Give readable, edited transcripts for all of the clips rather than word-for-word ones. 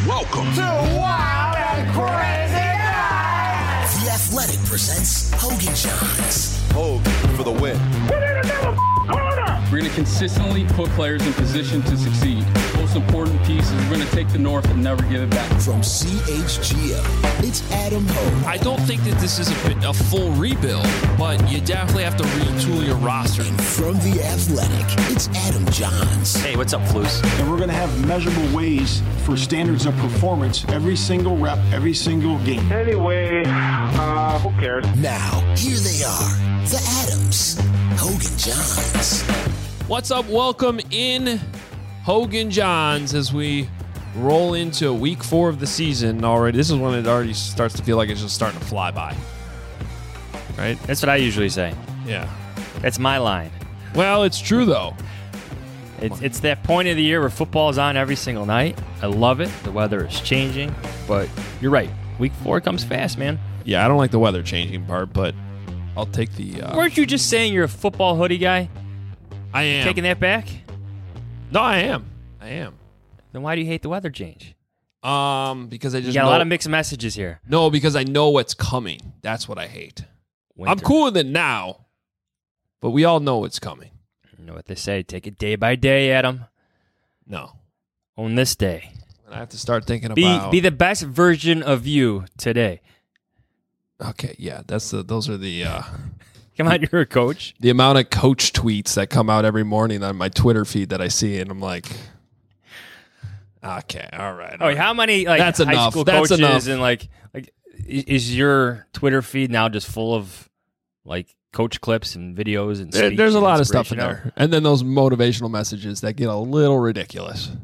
Welcome to Wild and Crazy Night. The Athletic presents Hogan Johns. Hogan for the win. We're going to consistently put players in position to succeed. Most important piece is we're going to take the North and never give it back. From CHGO, it's Adam Hogue. I don't think that this is a full rebuild, but you definitely have to retool your roster. And from The Athletic, it's Adam Johns. Hey, what's up, Flus? And we're going to have measurable ways for standards of performance every single rep, every single game. Anyway, who cares? Now, here they are, the Adams, Hogan Johns. What's up? Welcome in Hogan Johns as we roll into week 4 of the season already. This is when it already starts to feel like it's just starting to fly by. Right? That's what I usually say. Yeah. That's my line. Well, it's true, though. It's that point of the year where football is on every single night. I love it. The weather is changing. But you're right. Week 4 comes fast, man. Yeah, I don't like the weather changing part, but I'll take the... Weren't you just saying you're a football hoodie guy? I am. Taking that back? No, I am. Then why do you hate the weather change? Because I just You got a lot of mixed messages here. No, because I know what's coming. That's what I hate. Winter. I'm cool with it now, but we all know what's coming. You know what they say. Take it day by day, Adam. No. On this day. And I have to start thinking about... Be the best version of you today. Okay, yeah. Those are the... Come on, you're a coach. The amount of coach tweets that come out every morning on my Twitter feed that I see, and I'm like... Okay, all right. Oh, how many that's high enough. school That's coaches enough. and is your Twitter feed now just full of coach clips and videos and speech There's a and lot of stuff in inspiration? there, and then those motivational messages that get a little ridiculous.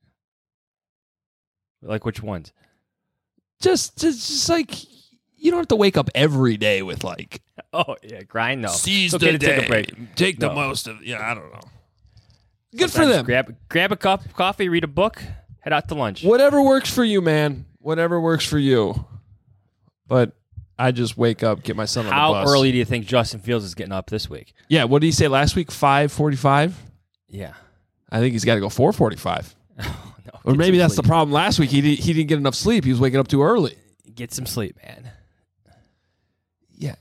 Like which ones? Just like you don't have to wake up every day with like, oh yeah, grind though. Seize It's okay the to day. take a break. Take the No. most of. Yeah, I don't know. Good Sometimes for them. Grab a cup of coffee, read a book, head out to lunch. Whatever works for you, man. Whatever works for you. But I just wake up, get my son on the bus. How early do you think Justin Fields is getting up this week? Yeah, what did he say last week? 5:45? Yeah. I think he's got to go 4:45. No, Or get maybe some that's the sleep. problem. Last week he didn't get enough sleep. He was waking up too early. Get some sleep, man. Yeah,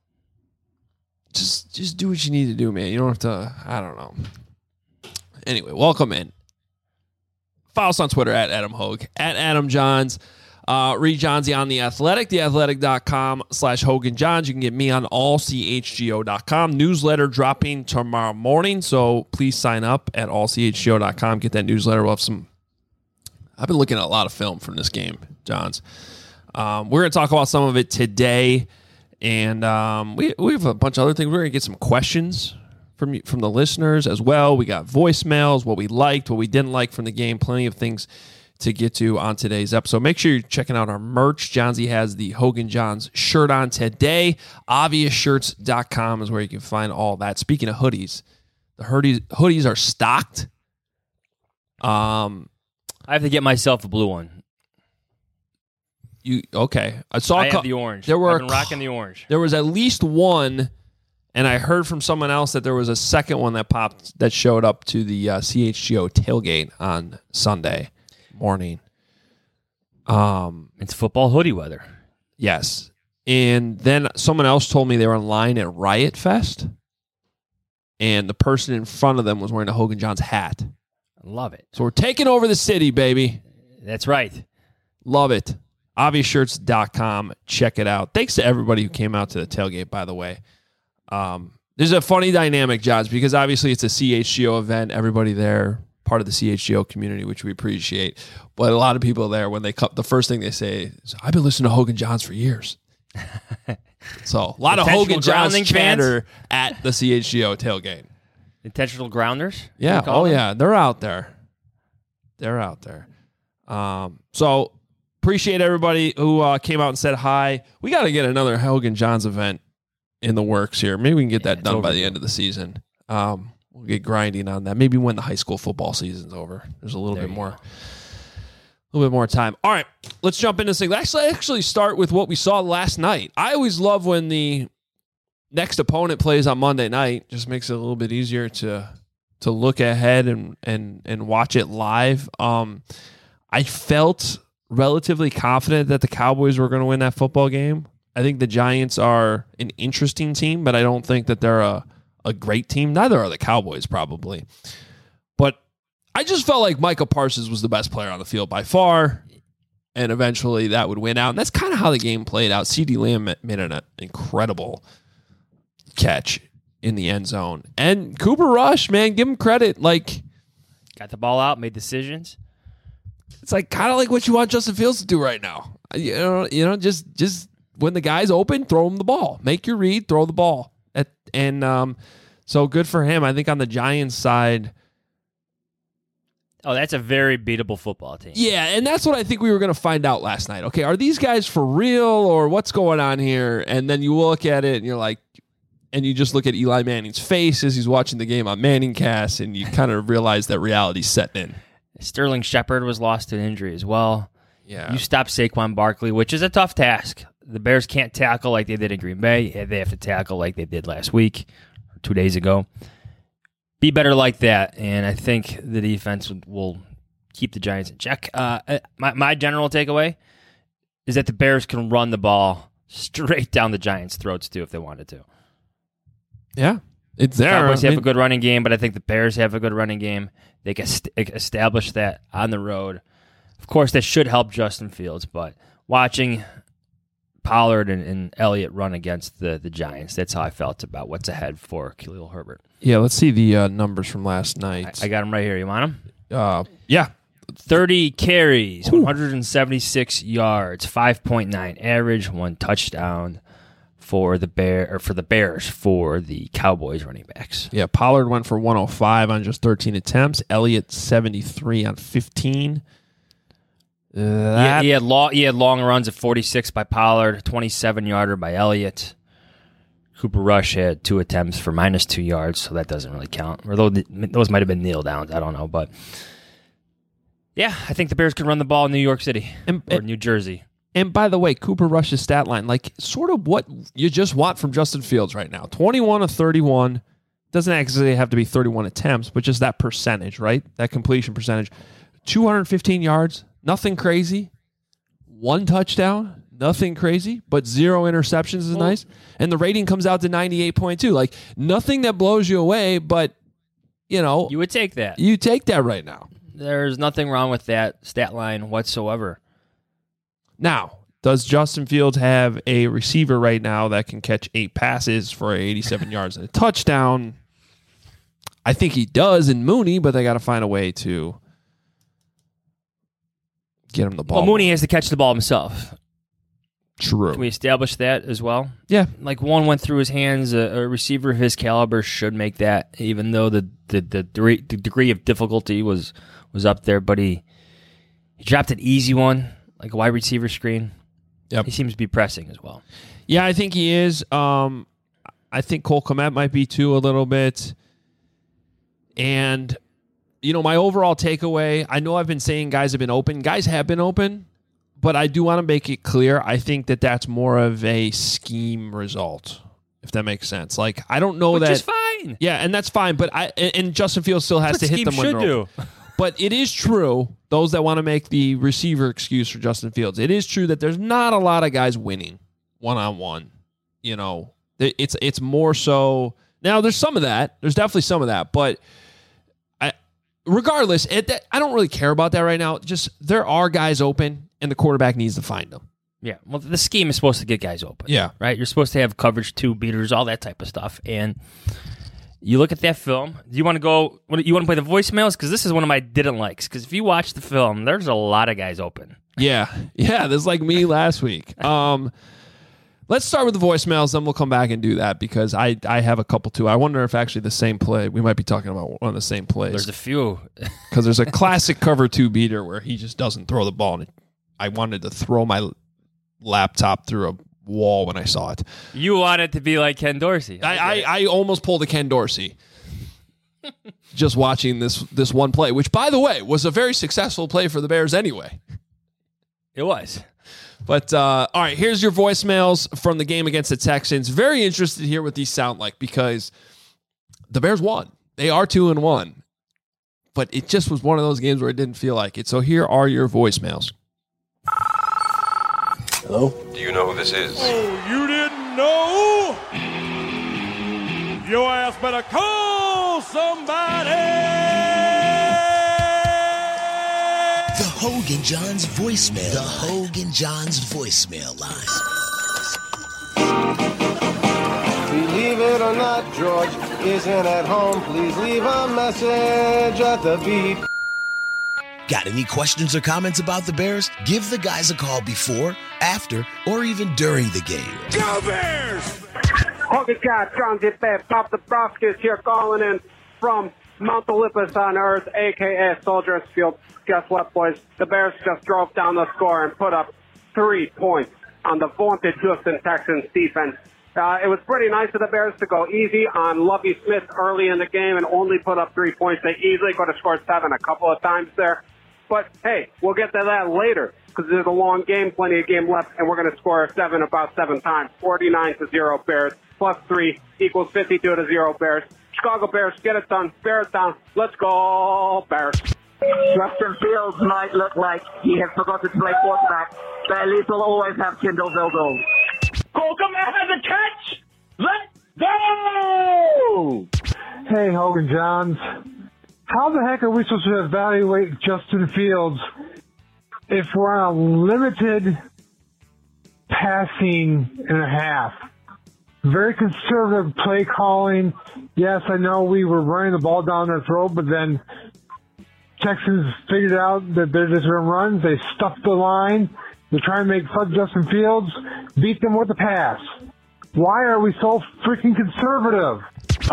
just do what you need to do, man. You don't have to. I don't know. Anyway, welcome in. Follow us on Twitter at Adam Hogue, at Adam Johns. Read Johnsy on The Athletic, theathletic.com/Hogan Johns. You can get me on allchgo.com. Newsletter dropping tomorrow morning, so please sign up at allchgo.com. Get that newsletter. We'll have some... I've been looking at a lot of film from this game, Johns. We're going to talk about some of it today, and we have a bunch of other things. We're going to get some questions from the listeners as well. We got voicemails, what we liked, what we didn't like from the game, plenty of things to get to on today's episode. Make sure you're checking out our merch. Johnsy has the Hogan Johns shirt on today. Obviousshirts.com is where you can find all that. Speaking of hoodies, the hoodies are stocked. I have to get myself a blue one. Okay? I have the orange. I've been rocking the orange. There was at least one, and I heard from someone else that there was a second one that showed up to the CHGO tailgate on Sunday morning. It's football hoodie weather. Yes. And then someone else told me they were in line at Riot Fest, and the person in front of them was wearing a Hogan Johns hat. I love it. So we're taking over the city, baby. That's right. Love it. Obviousshirts.com. Check it out. Thanks to everybody who came out to the tailgate, by the way. There's a funny dynamic, Johns, because obviously it's a CHGO event. Everybody there, part of the CHGO community, which we appreciate. But a lot of people there, when they come, the first thing they say is, I've been listening to Hogan Johns for years. So a lot of Hogan Johns chatter at the CHGO tailgate. Intentional grounders? Yeah. Oh, yeah. They're out there. So appreciate everybody who came out and said hi. We got to get another Hogan Johns event in the works here. Maybe we can get that done by the end of the season. We'll get grinding on that. Maybe when the high school football season's over. There's a little bit more time. All right, let's jump into this thing. Let's actually start with what we saw last night. I always love when the next opponent plays on Monday night. Just makes it a little bit easier to look ahead and watch it live. I felt relatively confident that the Cowboys were going to win that football game. I think the Giants are an interesting team, but I don't think that they're a great team. Neither are the Cowboys, probably. But I just felt like Michael Parsons was the best player on the field by far, and eventually that would win out. And that's kind of how the game played out. CeeDee Lamb made an incredible catch in the end zone. And Cooper Rush, man, give him credit. Like, got the ball out, made decisions. It's like kind of like what you want Justin Fields to do right now. You know, just when the guy's open, throw him the ball. Make your read, throw the ball. So good for him. I think on the Giants side. Oh, that's a very beatable football team. Yeah, and that's what I think we were going to find out last night. Okay, are these guys for real or what's going on here? And then you look at it and you're like, and you just look at Eli Manning's face as he's watching the game on ManningCast, and you kind of realize that reality's setting in. Sterling Shepard was lost to an injury as well. Yeah. You stop Saquon Barkley, which is a tough task. The Bears can't tackle like they did in Green Bay. They have to tackle like they did last week or 2 days ago. Be better like that, and I think the defense will keep the Giants in check. My general takeaway is that the Bears can run the ball straight down the Giants' throats, too, if they wanted to. Yeah, it's there. Cowboys have a good running game, but I think the Bears have a good running game. They can establish that on the road. Of course, that should help Justin Fields, but watching Pollard and Elliott run against the Giants, that's how I felt about what's ahead for Khalil Herbert. Yeah, let's see the numbers from last night. I got them right here. You want them? Yeah. 30 carries, 176 yards, 5.9 average, 1 touchdown for the Bears for the Cowboys running backs. Yeah, Pollard went for 105 on just 13 attempts. Elliott 73 on 15. He had long runs at 46 by Pollard, 27-yarder by Elliott. Cooper Rush had 2 attempts for -2 yards, so that doesn't really count. Or those might have been kneel downs. I don't know, but yeah, I think the Bears can run the ball in New York City or New Jersey. And by the way, Cooper Rush's stat line, like sort of what you just want from Justin Fields right now. 21 of 31. Doesn't actually have to be 31 attempts, but just that percentage, right? That completion percentage. 215 yards, nothing crazy. 1 touchdown, nothing crazy, but 0 interceptions is nice. And the rating comes out to 98.2. Like nothing that blows you away, but you know. You would take that. You take that right now. There's nothing wrong with that stat line whatsoever. Now, does Justin Fields have a receiver right now that can catch 8 passes for 87 yards and a touchdown? I think he does in Mooney, but they got to find a way to get him the ball. Well, Mooney has to catch the ball himself. True. Can we establish that as well? Yeah. Like one went through his hands. A receiver of his caliber should make that, even though the degree of difficulty was up there. But he dropped an easy one, like a wide receiver screen. Yep. He seems to be pressing as well. Yeah, I think he is. I think Cole Kmet might be too a little bit. And, you know, my overall takeaway, I know I've been saying guys have been open. Guys have been open, but I do want to make it clear. I think that that's more of a scheme result, if that makes sense. Like, I don't know that. Which is fine. Yeah, and that's fine. But and Justin Fields still has to hit them when they're open. But it is true, those that want to make the receiver excuse for Justin Fields, it is true that there's not a lot of guys winning one-on-one. You know, it's more so. Now, there's some of that. There's definitely some of that. But regardless, I don't really care about that right now. Just there are guys open, and the quarterback needs to find them. Yeah, well, the scheme is supposed to get guys open. Yeah. Right? You're supposed to have coverage, 2 beaters, all that type of stuff. And you look at that film. Do you want to go? You want to play the voicemails? Because this is one of my didn't likes. Because if you watch the film, there's a lot of guys open. Yeah. That's like me last week. Let's start with the voicemails, then we'll come back and do that because I have a couple too. I wonder if actually the same play, we might be talking about one of the same plays. There's a few. Because there's a classic cover 2 beater where he just doesn't throw the ball. And I wanted to throw my laptop through a wall when I saw it. You want it to be like Ken Dorsey. I almost pulled a Ken Dorsey just watching this one play, which, by the way, was a very successful play for the Bears anyway. It was. But, all right, here's your voicemails from the game against the Texans. Very interested to hear what these sound like because the Bears won. They are 2-1. But it just was one of those games where it didn't feel like it. So here are your voicemails. Hello? Do you know who this is? Oh, you didn't know? Your ass better call somebody! The Hogan Johns voicemail. The Hogan Johns voicemail line. Believe it or not, George isn't at home. Please leave a message at the beep. Got any questions or comments about the Bears? Give the guys a call before, after, or even during the game. Go Bears! Hogan John, John Zipet, Pop the Broskis here calling in from Mount Olympus on Earth, a.k.a. Soldiers Field. Guess what, boys? The Bears just drove down the score and put up 3 points on the vaunted Houston Texans defense. It was pretty nice of the Bears to go easy on Lovie Smith early in the game and only put up 3 points. They easily could have scored 7 a couple of times there. But, hey, we'll get to that later because there's a long game, plenty of game left, and we're going to score 7 about 7 times. 49-0 Bears, plus 3 equals 52-0 Bears. Chicago Bears, get it done. Bears down. Let's go, Bears. Justin Fields might look like he has forgotten to play quarterback, but at least we'll always have Kendall Vildo. Holcomb has a catch! Let's go! Hey, Hogan Johns. How the heck are we supposed to evaluate Justin Fields if we're on a limited passing and a half? Very conservative play calling. Yes, I know we were running the ball down their throat, but then Texans figured out that they're just going to run. They stuffed the line. They're trying to make fun of Justin Fields, beat them with the pass. Why are we so freaking conservative?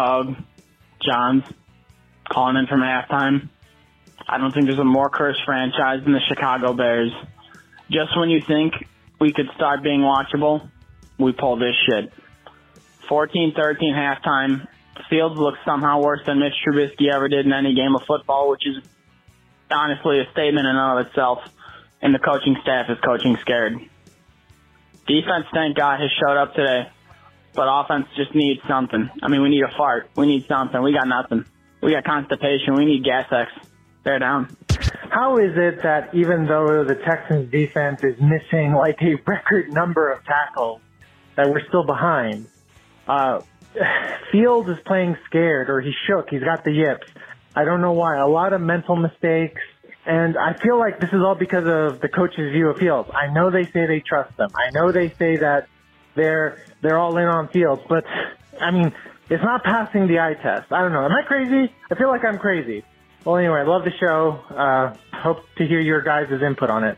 Johns, calling in from halftime. I don't think there's a more cursed franchise than the Chicago Bears. Just when you think we could start being watchable, we pull this shit. 14-13 halftime. Fields looks somehow worse than Mitch Trubisky ever did in any game of football, which is honestly a statement in and of itself. And the coaching staff is coaching scared. Defense, thank God, has showed up today. But offense just needs something. I mean, we need a fart. We need something. We got nothing. We got constipation. We need gas X. Bear down. How is it that even though the Texans defense is missing like a record number of tackles, that we're still behind? Fields is playing scared, or he's shook. He's got the yips. I don't know why. A lot of mental mistakes. And I feel like this is all because of the coach's view of Fields. I know they say they trust them. I know they say that they're all in on Fields. But, I mean, it's not passing the eye test. I don't know. Am I crazy? I feel like I'm crazy. Well, anyway, I love the show. Hope to hear your guys' input on it.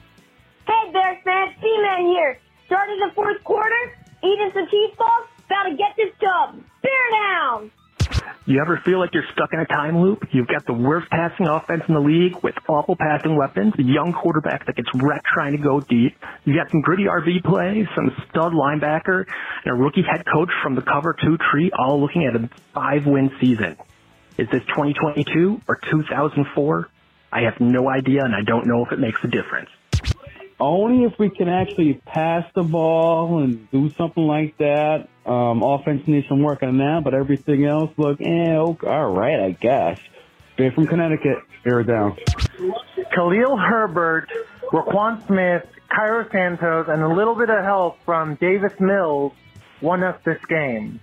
Hey, Bears fans. C-Man here. Starting the fourth quarter, eating some cheese balls, about to get this dub. Bear down! You ever feel like you're stuck in a time loop? You've got the worst passing offense in the league with awful passing weapons, a young quarterback that gets wrecked trying to go deep. You got some gritty RB plays, some stud linebacker, and a rookie head coach from the cover 2 tree, all looking at a 5-win season. Is this 2022 or 2004? I have no idea, and I don't know if it makes a difference. Only if we can actually pass the ball and do something like that. Offense needs some work on that, but everything else, look, okay, all right, I guess. Straight from Connecticut, bear down. Khalil Herbert, Roquan Smith, Cairo Santos, and a little bit of help from Davis Mills won us this game.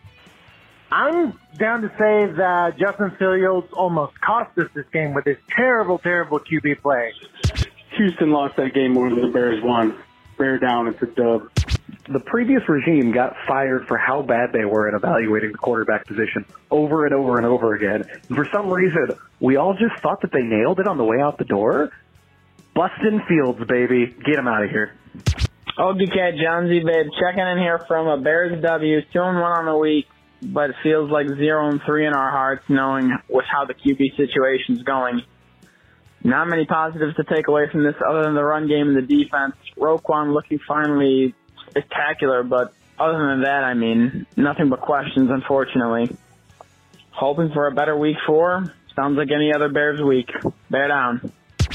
I'm down to say that Justin Fields almost cost us this game with his terrible, terrible QB play. Houston lost that game more than the Bears won. Bear down, it's a dub. The previous regime got fired for how bad they were at evaluating the quarterback position over and over and over again. And for some reason, we all just thought that they nailed it on the way out the door. Bustin' Fields, baby. Get him out of here. Ogie Cat, Johnsy, babe, checking in here from a Bears W, 2-1 on the week, but it feels like 0-3 in our hearts, knowing with how the QB situation's going. Not many positives to take away from this other than the run game and the defense. Roquan looking finally spectacular, but other than that, I mean, nothing but questions, unfortunately. Hoping for a better week 4. Sounds like any other Bears week. Bear down.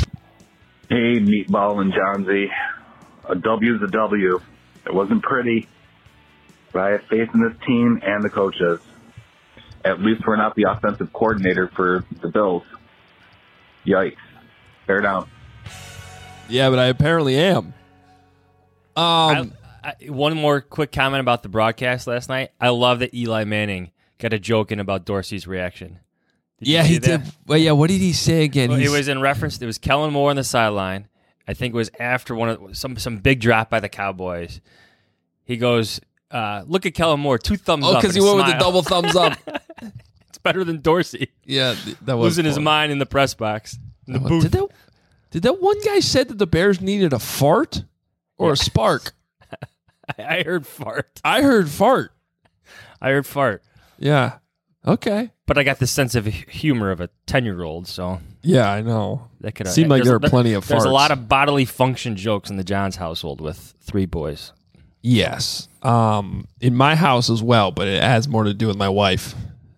Hey, Meatball and Johnsy. A W's a W. It wasn't pretty, but I have faith in this team and the coaches. At least we're not the offensive coordinator for the Bills. Yikes. Bear down. Yeah, but I apparently am. One more quick comment about the broadcast last night. I love that Eli Manning got a joke in about Dorsey's reaction. He did. Well, yeah, what did he say again? Well, it was in reference. It was Kellen Moore on the sideline. I think it was after some big drop by the Cowboys. He goes, "Look at Kellen Moore, 2 thumbs up." Oh, because he went with the double thumbs up. It's better than Dorsey. Yeah, that was losing his mind in the press box. In the booth. Did that one guy said that the Bears needed a fart or a spark? I heard fart. I heard fart. Yeah. Okay. But I got the sense of humor of a 10-year-old, so. Yeah, I know. That could seemed like there were plenty of farts. There's a lot of bodily function jokes in the Johns household with 3 boys. Yes. In my house as well, but it has more to do with my wife.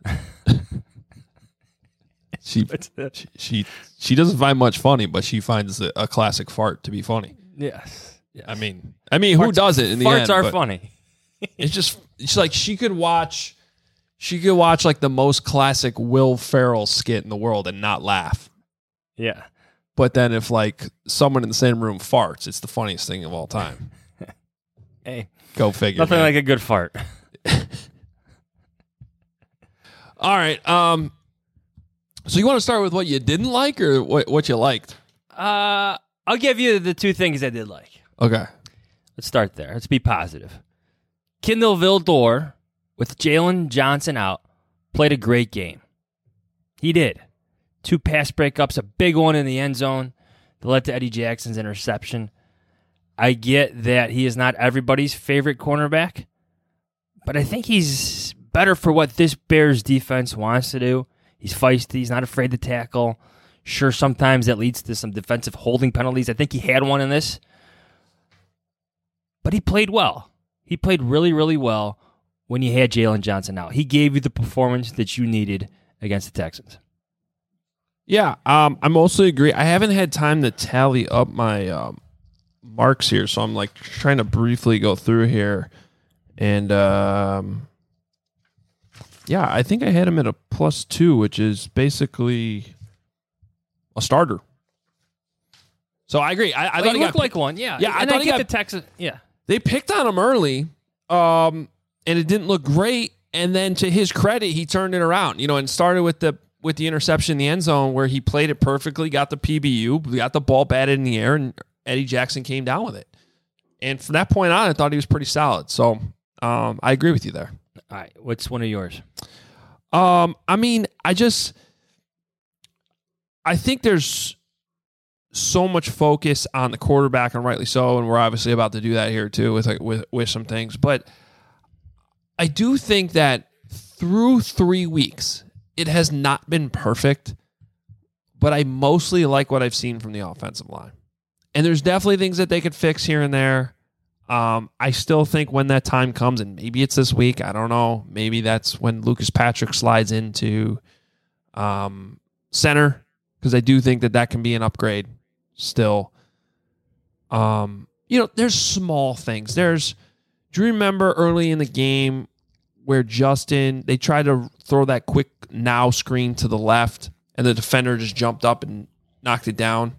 She doesn't find much funny, but she finds a classic fart to be funny. Yes. I mean, who doesn't in the end? Farts are funny. It's like she could watch like the most classic Will Ferrell skit in the world and not laugh. Yeah. But then if like someone in the same room farts, it's the funniest thing of all time. Hey, go figure. Nothing like a good fart. All right. So you want to start with what you didn't like or what you liked? I'll give you the 2 things I did like. Okay. Let's start there. Let's be positive. Kindle Vildor, with Jalen Johnson out, played a great game. He did. 2 pass breakups, a big one in the end zone that led to Eddie Jackson's interception. I get that he is not everybody's favorite cornerback, but I think he's better for what this Bears defense wants to do. He's feisty. He's not afraid to tackle. Sure, sometimes that leads to some defensive holding penalties. I think he had one in this. But he played well. He played really, really well when you had Jalen Johnson out. He gave you the performance that you needed against the Texans. Yeah, I mostly agree. I haven't had time to tally up my marks here, so I'm like trying to briefly go through here. And yeah, I think I had him at a +2, which is basically a starter. So I agree. I thought he looked like one. Yeah. Yeah, and I get the Texans. Yeah. They picked on him early, and it didn't look great. And then to his credit, he turned it around, and started with the interception in the end zone where he played it perfectly, got the PBU, got the ball batted in the air, and Eddie Jackson came down with it. And from that point on, I thought he was pretty solid. So I agree with you there. All right. What's one of yours? I mean, I think there's so much focus on the quarterback, and rightly so, and we're obviously about to do that here too with some things. But I do think that through 3 weeks, it has not been perfect, but I mostly like what I've seen from the offensive line. And there's definitely things that they could fix here and there. I still think when that time comes, and maybe it's this week, I don't know, maybe that's when Lucas Patrick slides into center, because I do think that can be an upgrade still. There's small things. Do you remember early in the game where they tried to throw that quick now screen to the left and the defender just jumped up and knocked it down?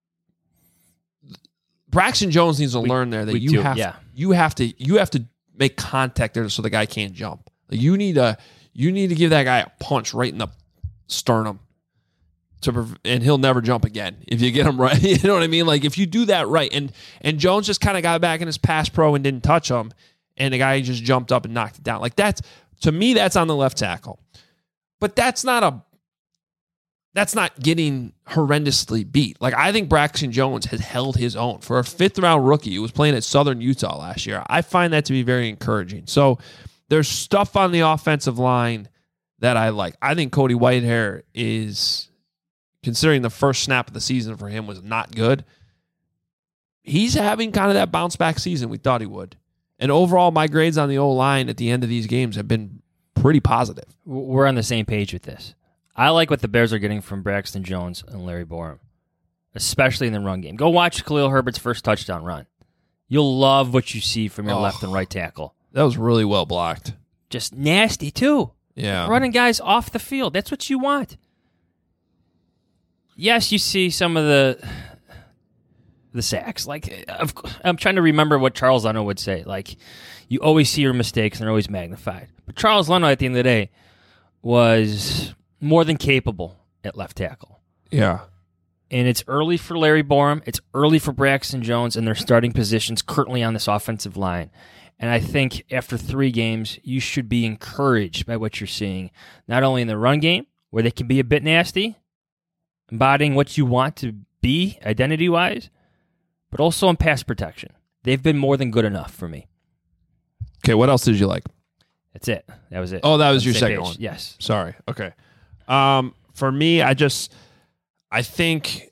Braxton Jones needs to learn there that you have to make contact there so the guy can't jump. You need to give that guy a punch right in the sternum and he'll never jump again if you get him right. You know what I mean? Like if you do that right, and Jones just kind of got back in his pass pro and didn't touch him, and the guy just jumped up and knocked it down. Like that's, to me, that's on the left tackle. But that's not getting horrendously beat. Like I think Braxton Jones has held his own for a 5th round rookie who was playing at Southern Utah last year. I find that to be very encouraging. So there's stuff on the offensive line that I like. I think Cody Whitehair is, considering the first snap of the season for him was not good, he's having kind of that bounce back season we thought he would. And overall, my grades on the O-line at the end of these games have been pretty positive. We're on the same page with this. I like what the Bears are getting from Braxton Jones and Larry Borom, especially in the run game. Go watch Khalil Herbert's first touchdown run. You'll love what you see from your left and right tackle. That was really well blocked. Just nasty, too. Yeah. Running guys off the field. That's what you want. Yes, you see some of the the sacks. Like, I'm trying to remember what Charles Leno would say. Like, you always see your mistakes and they're always magnified. But Charles Leno, at the end of the day, was more than capable at left tackle. Yeah. And it's early for Larry Borum. It's early for Braxton Jones and their starting positions currently on this offensive line. And I think after 3 games, you should be encouraged by what you're seeing, not only in the run game, where they can be a bit nasty, embodying what you want to be identity-wise, but also in pass protection. They've been more than good enough for me. Okay, what else did you like? That's it. That was it. Oh, that was your second one. Yes. Sorry. Okay. For me, I think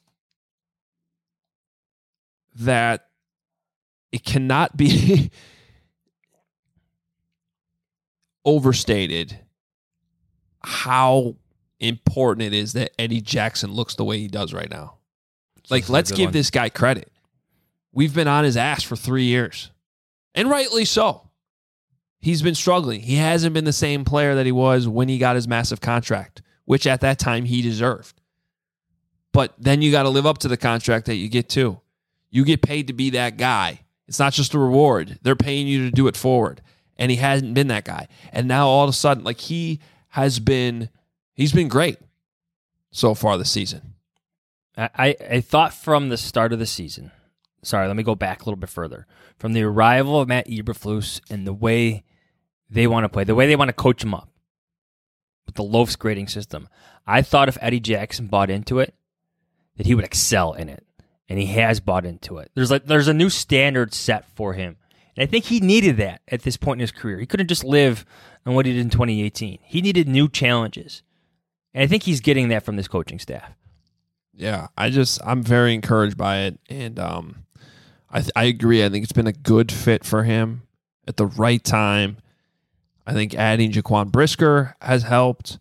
that it cannot be overstated how important it is that Eddie Jackson looks the way he does right now. Like, let's give this guy credit. We've been on his ass for 3 years, and rightly so. He's been struggling. He hasn't been the same player that he was when he got his massive contract, which at that time he deserved. But then you got to live up to the contract that you get too. You get paid to be that guy. It's not just a reward. They're paying you to do it forward. And he hasn't been that guy. And now all of a sudden, like, he's been great so far this season. I thought from the start of the season, sorry, let me go back a little bit further. From the arrival of Matt Eberflus and the way they want to play, the way they want to coach him up with the Loafs grading system, I thought if Eddie Jackson bought into it, that he would excel in it. And he has bought into it. There's a new standard set for him. And I think he needed that at this point in his career. He couldn't just live on what he did in 2018. He needed new challenges. And I think he's getting that from this coaching staff. Yeah, I'm very encouraged by it. And I agree. I think it's been a good fit for him at the right time. I think adding Jaquan Brisker has helped.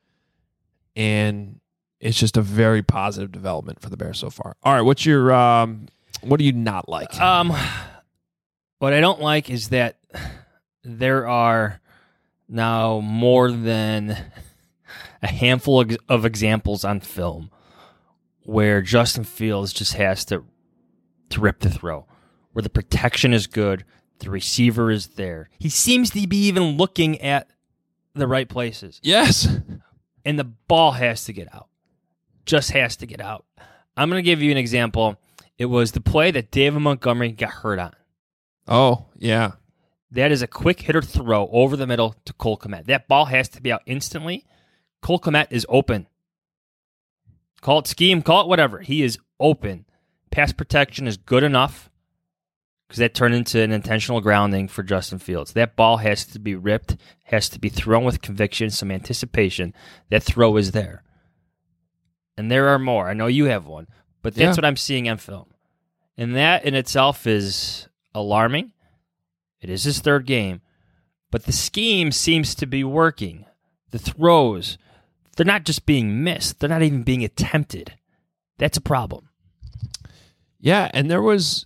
And it's just a very positive development for the Bears so far. All right, what's your what do you not like? What I don't like is that there are now more than a handful of examples on film where Justin Fields just has to rip the throw, where the protection is good, the receiver is there. He seems to be even looking at the right places. Yes. And the ball has to get out. Just has to get out. I'm going to give you an example. It was the play that David Montgomery got hurt on. Oh, yeah. That is a quick hitter throw over the middle to Cole Kmet. That ball has to be out instantly. Cole Kmet is open. Call it scheme, call it whatever. He is open. Pass protection is good enough because that turned into an intentional grounding for Justin Fields. That ball has to be ripped, has to be thrown with conviction, some anticipation. That throw is there. And there are more. I know you have one, but that's what I'm seeing on film. And that in itself is alarming. It is his 3rd game, but the scheme seems to be working. The throws, they're not just being missed. They're not even being attempted. That's a problem. Yeah, and there was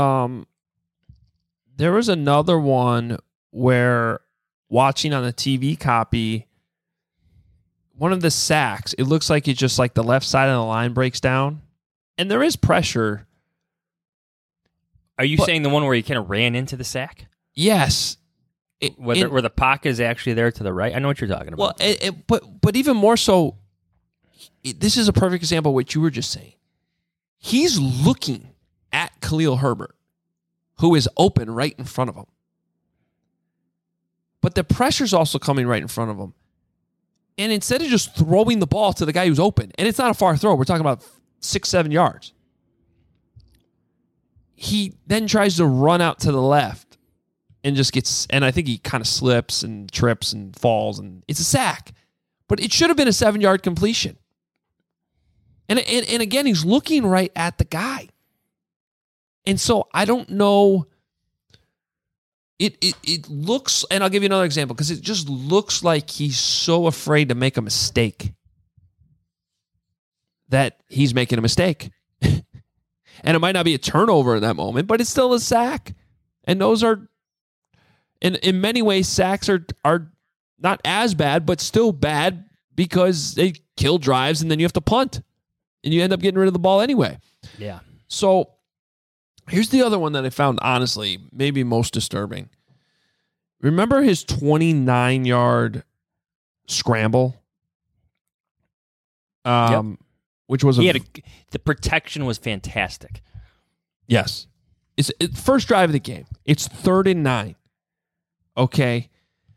another one where watching on the TV copy, one of the sacks, it looks like it's just like the left side of the line breaks down, and there is pressure. Are you saying the one where he kind of ran into the sack? Yes. Where the pocket is actually there to the right? I know what you're talking about. Well, but even more so, this is a perfect example of what you were just saying. He's looking at Khalil Herbert, who is open right in front of him. But the pressure's also coming right in front of him. And instead of just throwing the ball to the guy who's open, and it's not a far throw, we're talking about 6-7 yards. He then tries to run out to the left and just gets, and I think he kind of slips and trips and falls, and it's a sack. But it should have been a 7-yard completion. And again, he's looking right at the guy. And so I don't know. It looks, and I'll give you another example, because it just looks like he's so afraid to make a mistake that he's making a mistake. And it might not be a turnover in that moment, but it's still a sack. And those are, in many ways, sacks are not as bad, but still bad because they kill drives and then you have to punt. And you end up getting rid of the ball anyway. Yeah. So Here's the other one that I found, honestly, maybe most disturbing. Remember his 29-yard scramble? Which was the protection was fantastic. Yes. It's first drive of the game. It's 3rd and 9. Okay.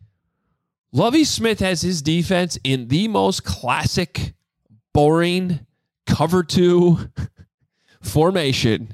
Lovie Smith has his defense in the most classic, boring, cover 2 formation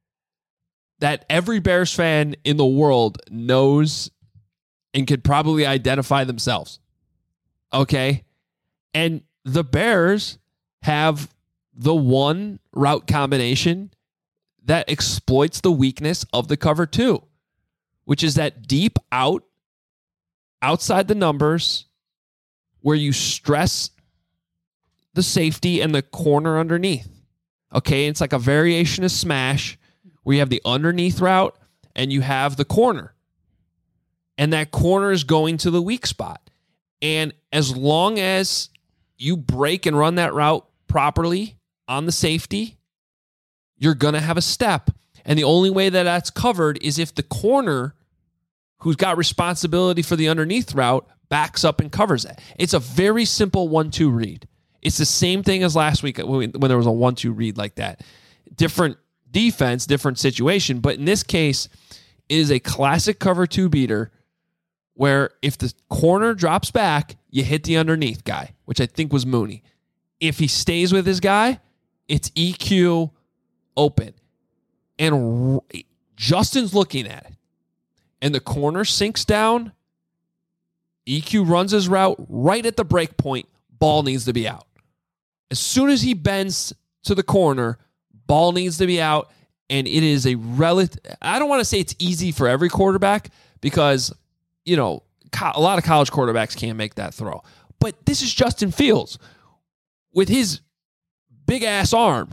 that every Bears fan in the world knows and could probably identify themselves. Okay? And the Bears have the one route combination that exploits the weakness of the cover 2, which is that deep outside the numbers where you stress the safety and the corner underneath. Okay, it's like a variation of smash where you have the underneath route and you have the corner. And that corner is going to the weak spot. And as long as you break and run that route properly on the safety, you're going to have a step. And the only way that that's covered is if the corner, who's got responsibility for the underneath route, backs up and covers it. It's a very simple 1-2 read. It's the same thing as last week when there was a 1-2 read like that. Different defense, different situation. But in this case, it is a classic cover 2 beater where if the corner drops back, you hit the underneath guy, which I think was Mooney. If he stays with his guy, it's EQ open. And Justin's looking at it. And the corner sinks down. EQ runs his route right at the break point. Ball needs to be out. As soon as he bends to the corner, ball needs to be out. And it is a I don't want to say it's easy for every quarterback because, you know, a lot of college quarterbacks can't make that throw. But this is Justin Fields with his big-ass arm.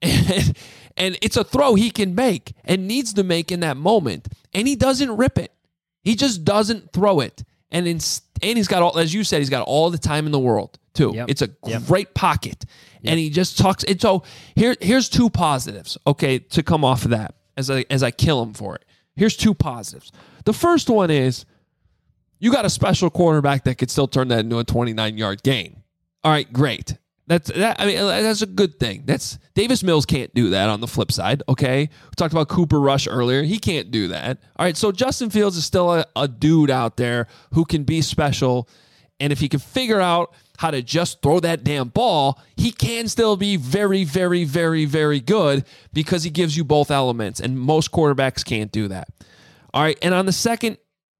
And it's a throw he can make and needs to make in that moment. And he doesn't rip it. He just doesn't throw it. And he's got all, as you said, he's got all the time in the world, too. Yep. It's a great pocket. Yep. And he just talks. And so here's 2 positives, okay, to come off of that as I kill him for it. Here's 2 positives. The first one is you got a special quarterback that could still turn that into a 29-yard gain. All right, great. That's a good thing. Davis Mills can't do that on the flip side, okay? We talked about Cooper Rush earlier. He can't do that. All right, so Justin Fields is still a dude out there who can be special, and if he can figure out how to just throw that damn ball, he can still be very, very, very, very good because he gives you both elements, and most quarterbacks can't do that. All right, and on the second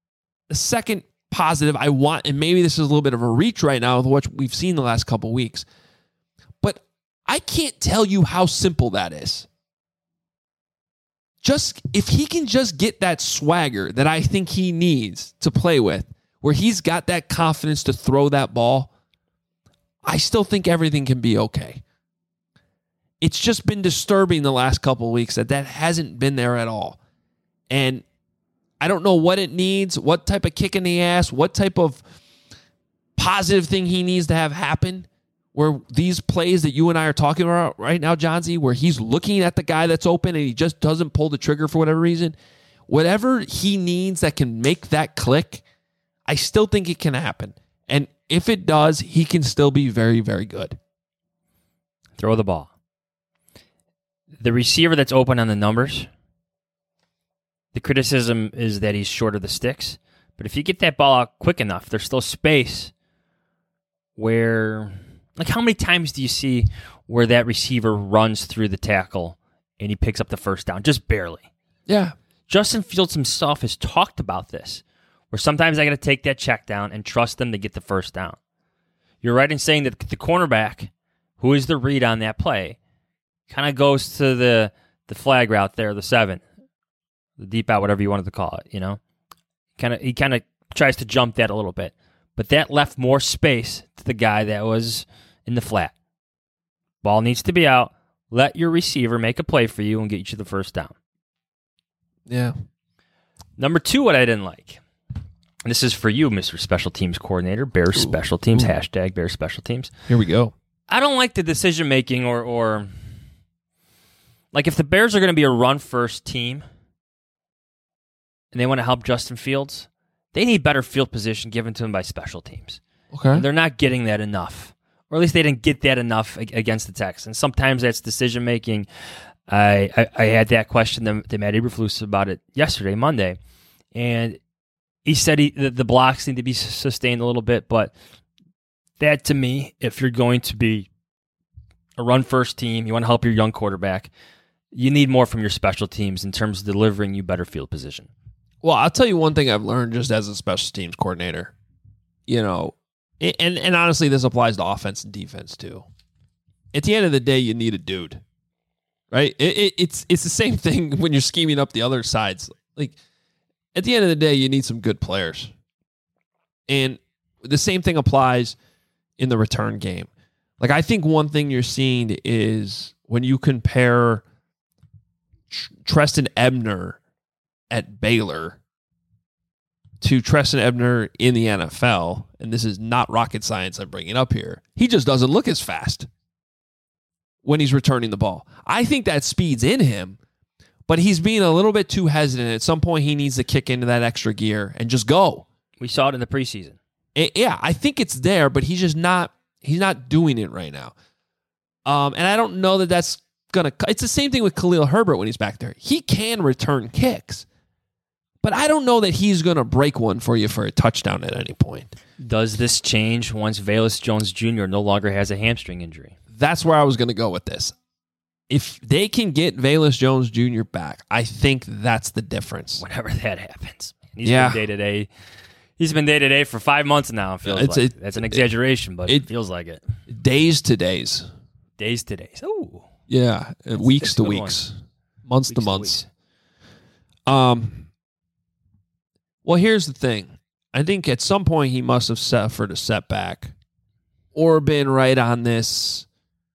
positive I want, and maybe this is a little bit of a reach right now with what we've seen the last couple weeks, but I can't tell you how simple that is. Just if he can just get that swagger that I think he needs to play with, where he's got that confidence to throw that ball, I still think everything can be okay. It's just been disturbing the last couple of weeks that hasn't been there at all. And I don't know what it needs, what type of kick in the ass, what type of positive thing he needs to have happen, where these plays that you and I are talking about right now, Johnsy, where he's looking at the guy that's open and he just doesn't pull the trigger for whatever reason. Whatever he needs that can make that click, I still think it can happen. And if it does, he can still be very, very good. Throw the ball. The receiver that's open on the numbers, the criticism is that he's short of the sticks. But if you get that ball out quick enough, there's still space where, like, how many times do you see where that receiver runs through the tackle and he picks up the first down? Just barely. Yeah. Justin Fields himself has talked about this, where sometimes I got to take that check down and trust them to get the first down. You're right in saying that the cornerback, who is the read on that play, kind of goes to the flag route there, the 7, the deep out, whatever you wanted to call it, you know? He kind of tries to jump that a little bit. But that left more space to the guy that was in the flat. Ball needs to be out. Let your receiver make a play for you and get you the first down. Yeah. Number 2, what I didn't like. And this is for you, Mr. Special Teams Coordinator. Bears Special Teams. Hashtag Bears Special Teams. Here we go. I don't like the decision-making or Like, if the Bears are going to be a run-first team and they want to help Justin Fields, they need better field position given to them by special teams. Okay. And they're not getting that enough. Or at least they didn't get that enough against the Texans. Sometimes that's decision-making. I had that question to Matt Eberflus about it yesterday, Monday, and he said the blocks need to be sustained a little bit, but that, to me, if you're going to be a run-first team, you want to help your young quarterback, you need more from your special teams in terms of delivering you better field position. Well, I'll tell you one thing I've learned just as a special teams coordinator. And honestly, this applies to offense and defense too. At the end of the day, you need a dude, right? It's the same thing when you're scheming up the other sides. Like, at the end of the day, you need some good players. And the same thing applies in the return game. Like, I think one thing you're seeing is when you compare Treston Ebner at Baylor to Treston Ebner in the NFL, and this is not rocket science I'm bringing up here, he just doesn't look as fast when he's returning the ball. I think that speed's in him, but he's being a little bit too hesitant. At some point, he needs to kick into that extra gear and just go. We saw it in the preseason. Yeah, I think it's there, but he's just not doing it right now. And I don't know that that's going to... It's the same thing with Khalil Herbert when he's back there. He can return kicks, but I don't know that he's going to break one for you for a touchdown at any point. Does this change once Velus Jones Jr. no longer has a hamstring injury? That's where I was going to go with this. If they can get Velus Jones Jr. back, I think that's the difference. Whenever that happens. He's been day-to-day. He's been day-to-day for 5 months now, it feels like. That's an exaggeration, but it feels like it. Days to days. Days to days. Oh. Yeah. Weeks to weeks. Months to months. Well, here's the thing. I think at some point he must have suffered a setback or been right on this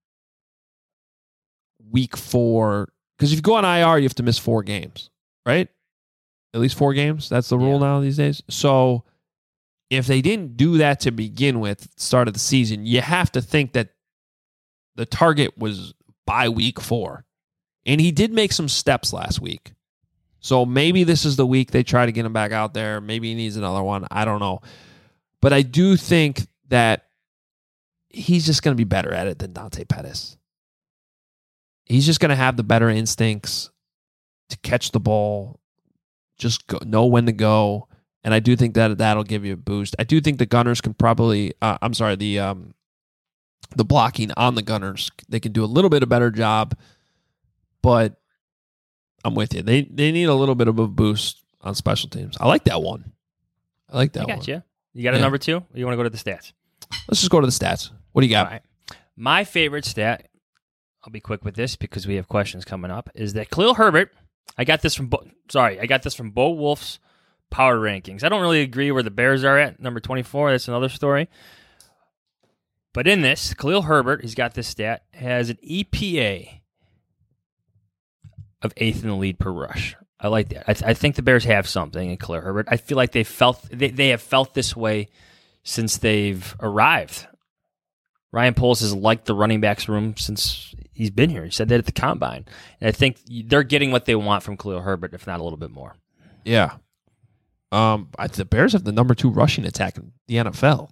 week 4. Because if you go on IR, you have to miss 4 games, right? At least 4 games. That's the rule now these days. So if they didn't do that to begin with, start of the season, you have to think that the target was by week 4. And he did make some steps last week. So maybe this is the week they try to get him back out there. Maybe he needs another one. I don't know. But I do think that he's just going to be better at it than Dante Pettis. He's just going to have the better instincts to catch the ball, just know when to go. And I do think that that'll give you a boost. I do think the Gunners can probably, the blocking on the Gunners, they can do a little bit of better job, but I'm with you. They need a little bit of a boost on special teams. I like that one. I got you. You got a number 2? Or you want to go to the stats? Let's just go to the stats. What do you got? All right. My favorite stat, I'll be quick with this because we have questions coming up, is that Khalil Herbert, I got this from Bo Wolf's Power Rankings. I don't really agree where the Bears are at, number 24. That's another story. But in this, Khalil Herbert, he's got this stat, has an EPA of 8th in the lead per rush. I like that. I think the Bears have something in Khalil Herbert. I feel like they have felt this way since they've arrived. Ryan Poles has liked the running backs room since he's been here. He said that at the Combine. And I think they're getting what they want from Khalil Herbert, if not a little bit more. Yeah. The Bears have the number 2 rushing attack in the NFL.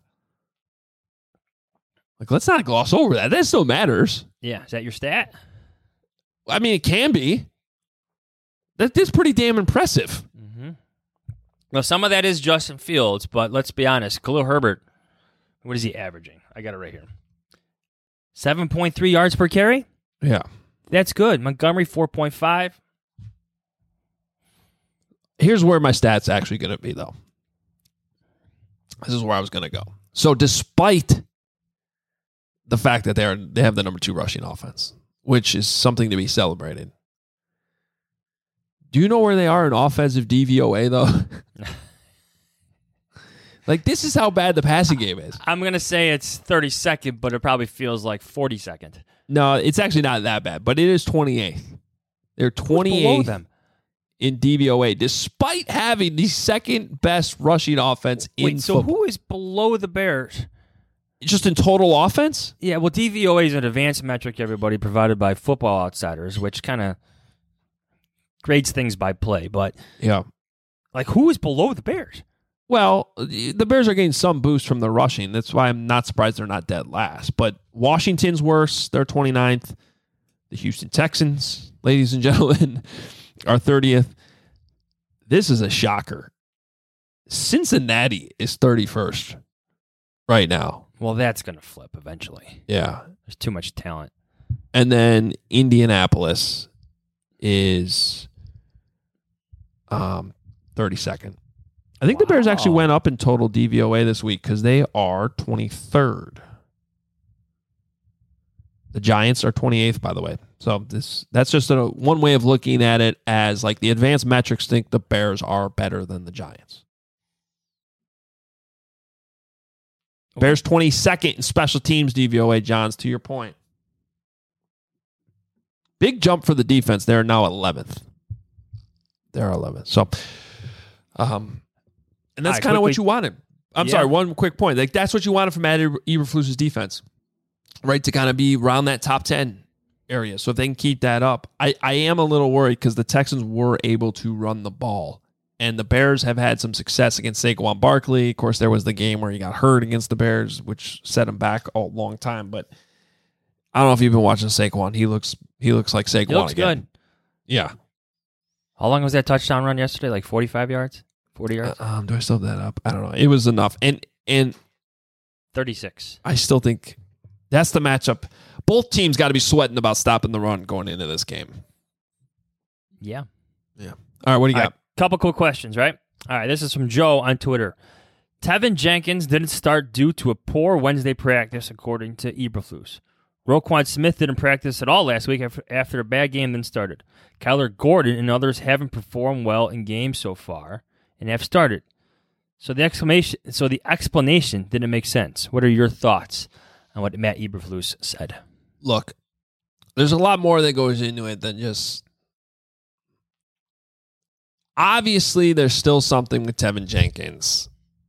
Like, let's not gloss over that. That still matters. Yeah. Is that your stat? I mean, it can be. That's pretty damn impressive. Mm-hmm. Well, some of that is Justin Fields, but let's be honest. Khalil Herbert, what is he averaging? I got it right here. 7.3 yards per carry? Yeah. That's good. Montgomery, 4.5. Here's where my stats actually going to be, though. This is where I was going to go. So despite the fact that they have the number 2 rushing offense, which is something to be celebrated, do you know where they are in offensive DVOA, though? Like, this is how bad the passing game is. I'm going to say it's 32nd, but it probably feels like 42nd. No, it's actually not that bad, but it is 28th. They're 28th in DVOA, despite having the second best rushing offense in football. Who is below the Bears? Just in total offense? Yeah, well, DVOA is an advanced metric, everybody, provided by Football Outsiders, which kind of grades things by play. But yeah, like, who is below the Bears? Well, the Bears are getting some boost from the rushing. That's why I'm not surprised they're not dead last. But Washington's worse. They're 29th. The Houston Texans, ladies and gentlemen, are 30th. This is a shocker. Cincinnati is 31st right now. Well, that's going to flip eventually. Yeah. There's too much talent. And then Indianapolis is 32nd. I think the Bears actually went up in total DVOA this week because they are 23rd. The Giants are 28th, by the way. So that's just one way of looking at it, as like the advanced metrics think the Bears are better than the Giants. Bears 22nd in special teams DVOA, Johns, to your point. Big jump for the defense. They're now 11th. They're 11th. So, and that's kind of what you wanted. I'm sorry, one quick point. Like, that's what you wanted from Matt Eberflus's defense, right? To kind of be around that top 10 area. So if they can keep that up, I am a little worried because the Texans were able to run the ball. And the Bears have had some success against Saquon Barkley. Of course, there was the game where he got hurt against the Bears, which set him back a long time. But I don't know if you've been watching Saquon. He looks like Saquon. He looks again. good. Yeah. How long was that touchdown run yesterday? Like 45 yards? 40 yards? Do I still have that up? I don't know. It was enough. And 36. I still think that's the matchup. Both teams got to be sweating about stopping the run going into this game. Yeah. Yeah. All right, what do you got? Couple quick questions, right? All right, this is from Joe on Twitter. Tevin Jenkins didn't start due to a poor Wednesday practice, according to Eberflus. Roquan Smith didn't practice at all last week after a bad game then started. Kyler Gordon and others haven't performed well in games so far and have started. So the explanation didn't make sense. What are your thoughts on what Matt Eberflus said? Look, there's a lot more that goes into it than just... Obviously, there's still something with Tevin Jenkins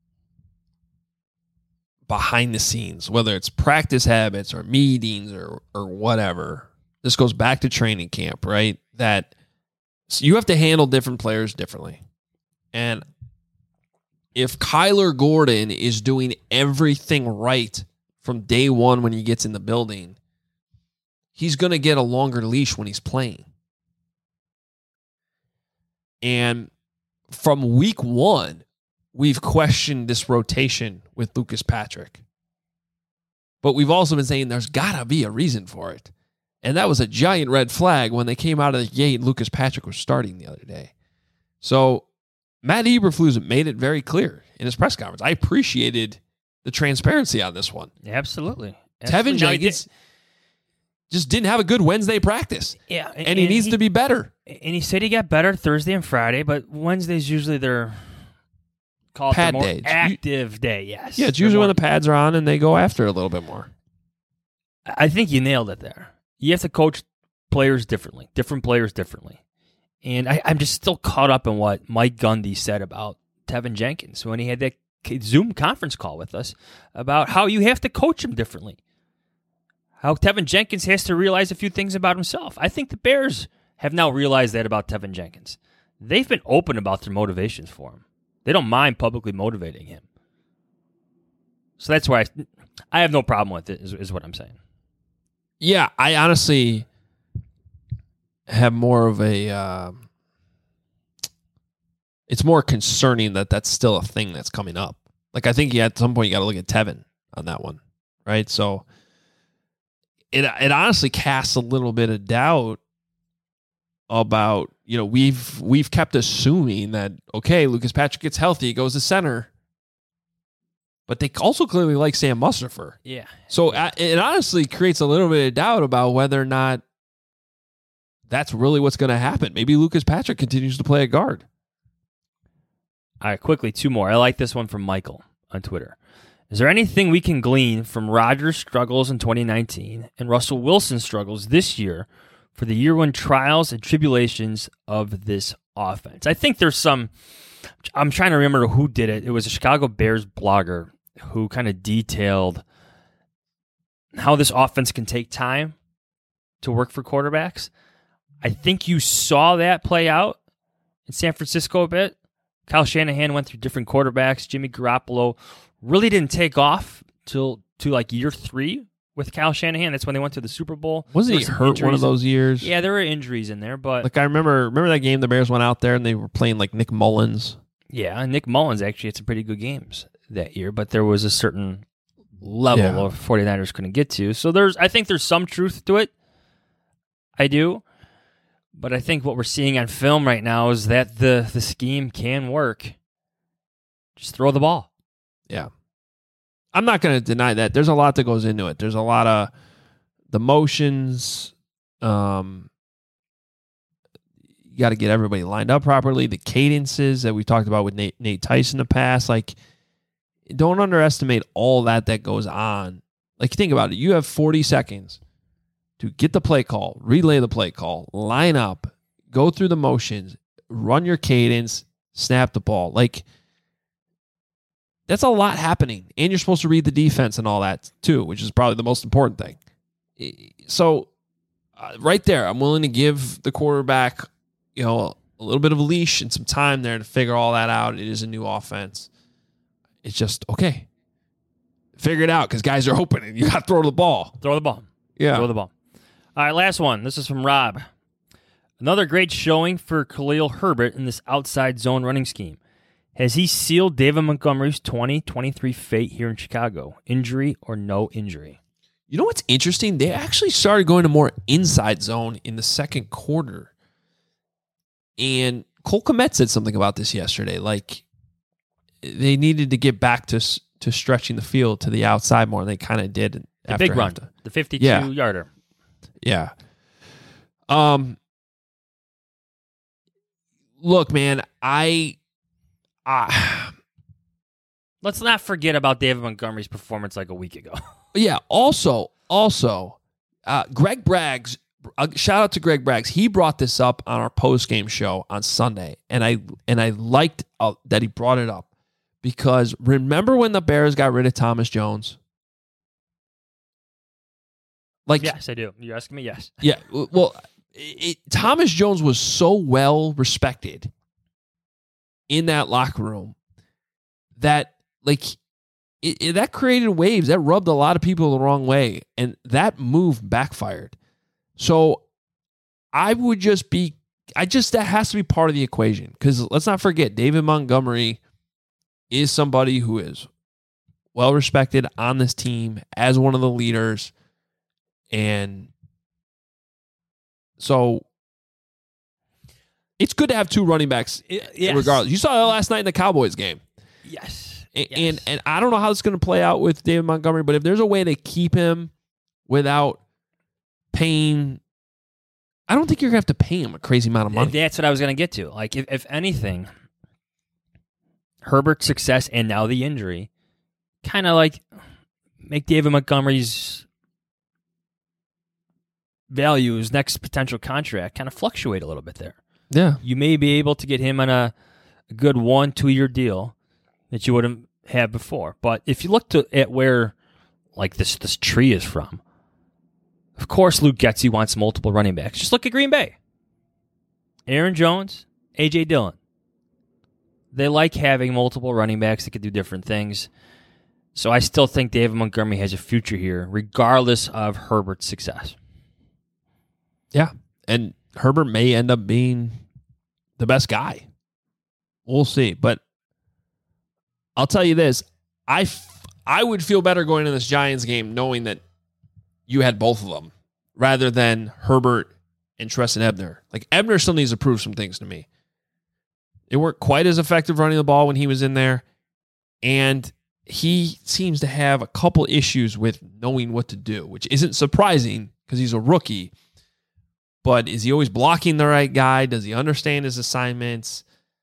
behind the scenes, whether it's practice habits or meetings or whatever. This goes back to training camp, right? That you have to handle different players differently. And if Kyler Gordon is doing everything right from day one when he gets in the building, he's going to get a longer leash when he's playing. And from week one, we've questioned this rotation with Lucas Patrick. But we've also been saying there's got to be a reason for it. And that was a giant red flag when they came out of the gate and Lucas Patrick was starting the other day. So Matt Eberflus made it very clear in his press conference. I appreciated the transparency on this one. Absolutely. Tevin Jenkins just didn't have a good Wednesday practice. Yeah. And he needs to be better. And he said he got better Thursday and Friday, but Wednesday's usually their pad more day. Active day, yes. Yeah, it's usually when the pads are on and they go after it a little bit more. I think you nailed it there. You have to coach players differently, different players differently. And I'm just still caught up in what Mike Gundy said about Tevin Jenkins when he had that Zoom conference call with us about how you have to coach him differently. How Tevin Jenkins has to realize a few things about himself. I think the Bears have now realized that about Tevin Jenkins. They've been open about their motivations for him. They don't mind publicly motivating him. So that's why I have no problem with it, is what I'm saying. Yeah, I honestly have more of a... it's more concerning that that's still a thing that's coming up. Like, I think at some point you got to look at Tevin on that one, right? So it honestly casts a little bit of doubt about, you know, we've kept assuming that, okay, Lucas Patrick gets healthy, he goes to center. But they also clearly like Sam Mustipher. Yeah. So it honestly creates a little bit of doubt about whether or not that's really what's going to happen. Maybe Lucas Patrick continues to play at guard. All right, quickly, two more. I like this one from Michael on Twitter. Is there anything we can glean from Rodgers' struggles in 2019 and Russell Wilson's struggles this year for the year one trials and tribulations of this offense? I think there's some... I'm trying to remember who did it. It was a Chicago Bears blogger who kind of detailed how this offense can take time to work for quarterbacks. I think you saw that play out in San Francisco a bit. Kyle Shanahan went through different quarterbacks. Jimmy Garoppolo really didn't take off to like year 3 with Kyle Shanahan. That's when they went to the Super Bowl. Wasn't he hurt one of those years? Yeah, there were injuries in there, but like I remember that game the Bears went out there and they were playing like Nick Mullins. Yeah, Nick Mullins actually had some pretty good games that year, but there was a certain level of 49ers couldn't get to. So I think there's some truth to it. I do. But I think what we're seeing on film right now is that the scheme can work. Just throw the ball. Yeah. I'm not going to deny that. There's a lot that goes into it. There's a lot of the motions. You got to get everybody lined up properly. The cadences that we talked about with Nate Tyson in the past. Like, don't underestimate all that goes on. Like, think about it. You have 40 seconds to get the play call, relay the play call, line up, go through the motions, run your cadence, snap the ball. Like, that's a lot happening. And you're supposed to read the defense and all that too, which is probably the most important thing. So right there, I'm willing to give the quarterback, a little bit of a leash and some time there to figure all that out. It is a new offense. It's just, okay, figure it out because guys are open and you got to throw the ball. Throw the ball. Yeah. Throw the ball. All right, last one. This is from Rob. Another great showing for Khalil Herbert in this outside zone running scheme. Has he sealed David Montgomery's 2023 fate here in Chicago? Injury or no injury? You know what's interesting? They actually started going to more inside zone in the second quarter. And Cole Kmet said something about this yesterday. Like, they needed to get back to stretching the field to the outside more, and they kind of did. The big run, the 52-yarder. Yeah. Look, man, let's not forget about David Montgomery's performance like a week ago. Yeah. Also, Greg Braggs. Shout out to Greg Braggs. He brought this up on our post-game show on Sunday, and I liked that he brought it up because remember when the Bears got rid of Thomas Jones? Like, yes, I do. You're asking me? Yes. Yeah. Well, Thomas Jones was so well respected in that locker room that that created waves. That rubbed a lot of people the wrong way, and that move backfired. So that has to be part of the equation because let's not forget David Montgomery is somebody who is well respected on this team as one of the leaders. And so it's good to have two running backs regardless. You saw that last night in the Cowboys game. Yes. And I don't know how it's going to play out with David Montgomery, but if there's a way to keep him without paying, I don't think you're going to have to pay him a crazy amount of money. That's what I was going to get to. Like, if anything, Herbert's success and now the injury kind of like make David Montgomery's value, his next potential contract, kind of fluctuate a little bit there. Yeah. You may be able to get him on a good 1-2 year deal that you wouldn't have before. But if you look at where like this tree is from, of course Luke Getsy wants multiple running backs. Just look at Green Bay. Aaron Jones, A.J. Dillon. They like having multiple running backs that can do different things. So I still think David Montgomery has a future here, regardless of Herbert's success. Yeah, and Herbert may end up being the best guy. We'll see. But I'll tell you this. I would feel better going into this Giants game knowing that you had both of them rather than Herbert and Treston Ebner. Like, Ebner still needs to prove some things to me. They weren't quite as effective running the ball when he was in there, and he seems to have a couple issues with knowing what to do, which isn't surprising because he's a rookie. But is he always blocking the right guy? Does he understand his assignments?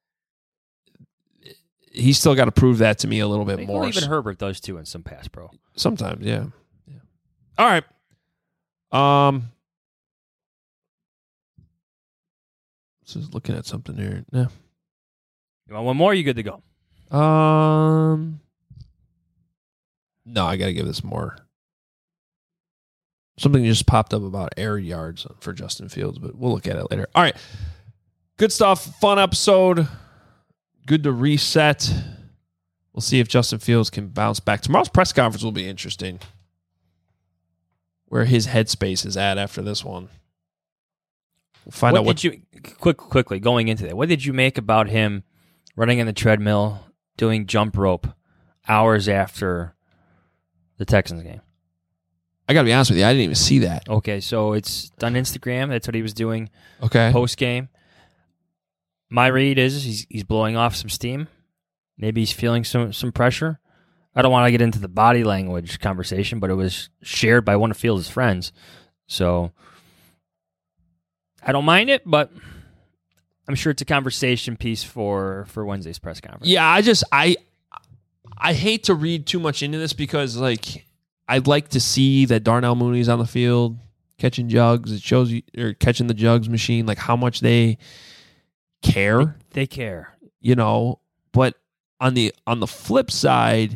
He's still got to prove that to me a little bit more. Well, even Herbert does too in some pass pro. Sometimes, yeah. All right. Just looking at something here. Yeah. You want one more? You good to go? No, I got to give this more Something just popped up about air yards for Justin Fields, but we'll look at it later. All right. Good stuff. Fun episode. Good to reset. We'll see if Justin Fields can bounce back. Tomorrow's press conference will be interesting. Where his headspace is at after this one. We'll find out what did you quickly going into that. What did you make about him running on the treadmill, doing jump rope hours after the Texans game? I got to be honest with you, I didn't even see that. Okay, so it's on Instagram. That's what he was doing. Okay. Post game. My read is he's blowing off some steam. Maybe he's feeling some pressure. I don't want to get into the body language conversation, but it was shared by one of Fields' friends. So I don't mind it, but I'm sure it's a conversation piece for Wednesday's press conference. Yeah, I hate to read too much into this because like I'd like to see that Darnell Mooney's on the field catching jugs. It shows you, or catching the jugs machine, like how much they care. They care. You know, but on the flip side,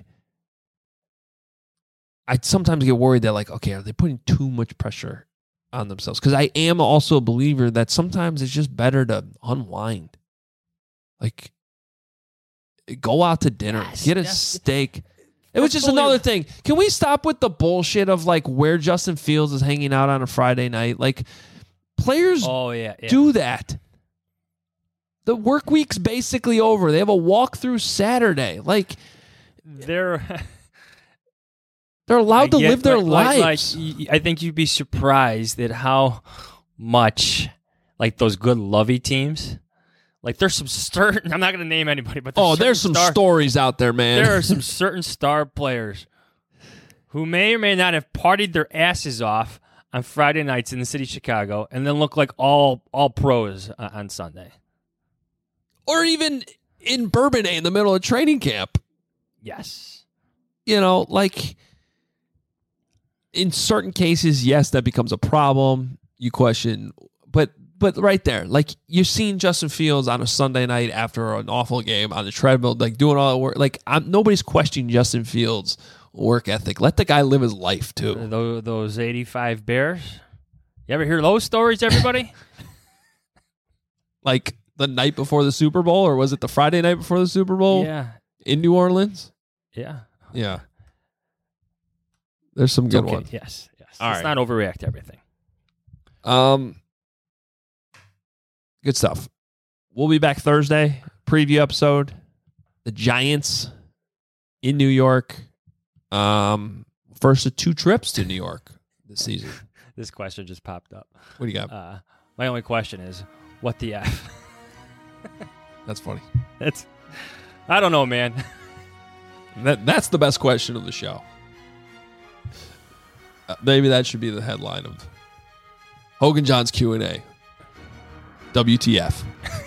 I sometimes get worried that like, okay, are they putting too much pressure on themselves? Because I am also a believer that sometimes it's just better to unwind. Like, go out to dinner, get a steak. It was just another thing. Can we stop with the bullshit of like where Justin Fields is hanging out on a Friday night? Like, players do that. The work week's basically over. They have a walkthrough Saturday. Like, they're allowed to live their lives. I think you'd be surprised at how much, like those good lovey teams, like there's some certain, I'm not going to name anybody, but there's some stories out there, man. There are some certain star players who may or may not have partied their asses off on Friday nights in the city of Chicago and then look like all pros on Sunday. Or even in Bourbonnais in the middle of training camp. Yes. You know, like, in certain cases, yes, that becomes a problem. You question, but right there, like, you're seeing Justin Fields on a Sunday night after an awful game on the treadmill, like doing all the work. Like, nobody's questioning Justin Fields' work ethic. Let the guy live his life too. Those 85 Bears. You ever hear those stories, everybody? Like the night before the Super Bowl, or was it the Friday night before the Super Bowl? Yeah, in New Orleans. Yeah. There's some good ones. Yes. All Let's right. not overreact to everything. Good stuff. We'll be back Thursday. Preview episode. The Giants in New York. First of 2 trips to New York this season. This question just popped up. What do you got? My only question is, what the F? That's funny. I don't know, man. That's the best question of the show. Maybe that should be the headline of Hogan John's Q&A. WTF.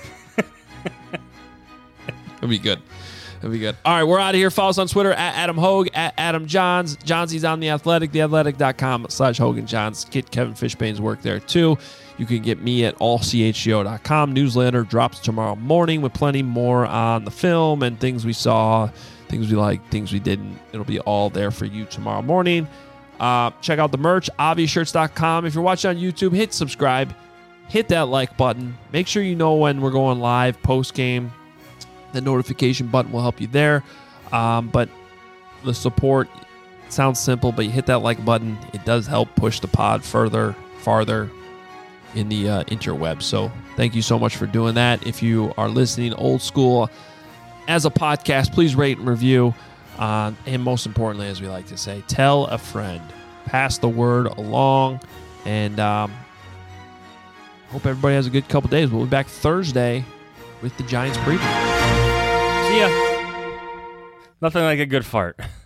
That'd be good. All right, we're out of here. Follow us on Twitter at Adam Hogue, at Adam Johns. Johnsy's on The Athletic, theathletic.com/Hogan Johns. Get Kevin Fishbane's work there too. You can get me at allchgo.com. Newsletter drops tomorrow morning with plenty more on the film and things we saw, things we liked, things we didn't. It'll be all there for you tomorrow morning. Check out the merch, obviousshirts.com. If you're watching on YouTube, hit subscribe. Hit that like button. Make sure you know when we're going live post-game. The notification button will help you there. But the support sounds simple, but you hit that like button. It does help push the pod farther in the interweb. So thank you so much for doing that. If you are listening old school as a podcast, please rate and review. And most importantly, as we like to say, tell a friend. Pass the word along. And hope everybody has a good couple days. We'll be back Thursday with the Giants preview. See ya. Nothing like a good fart.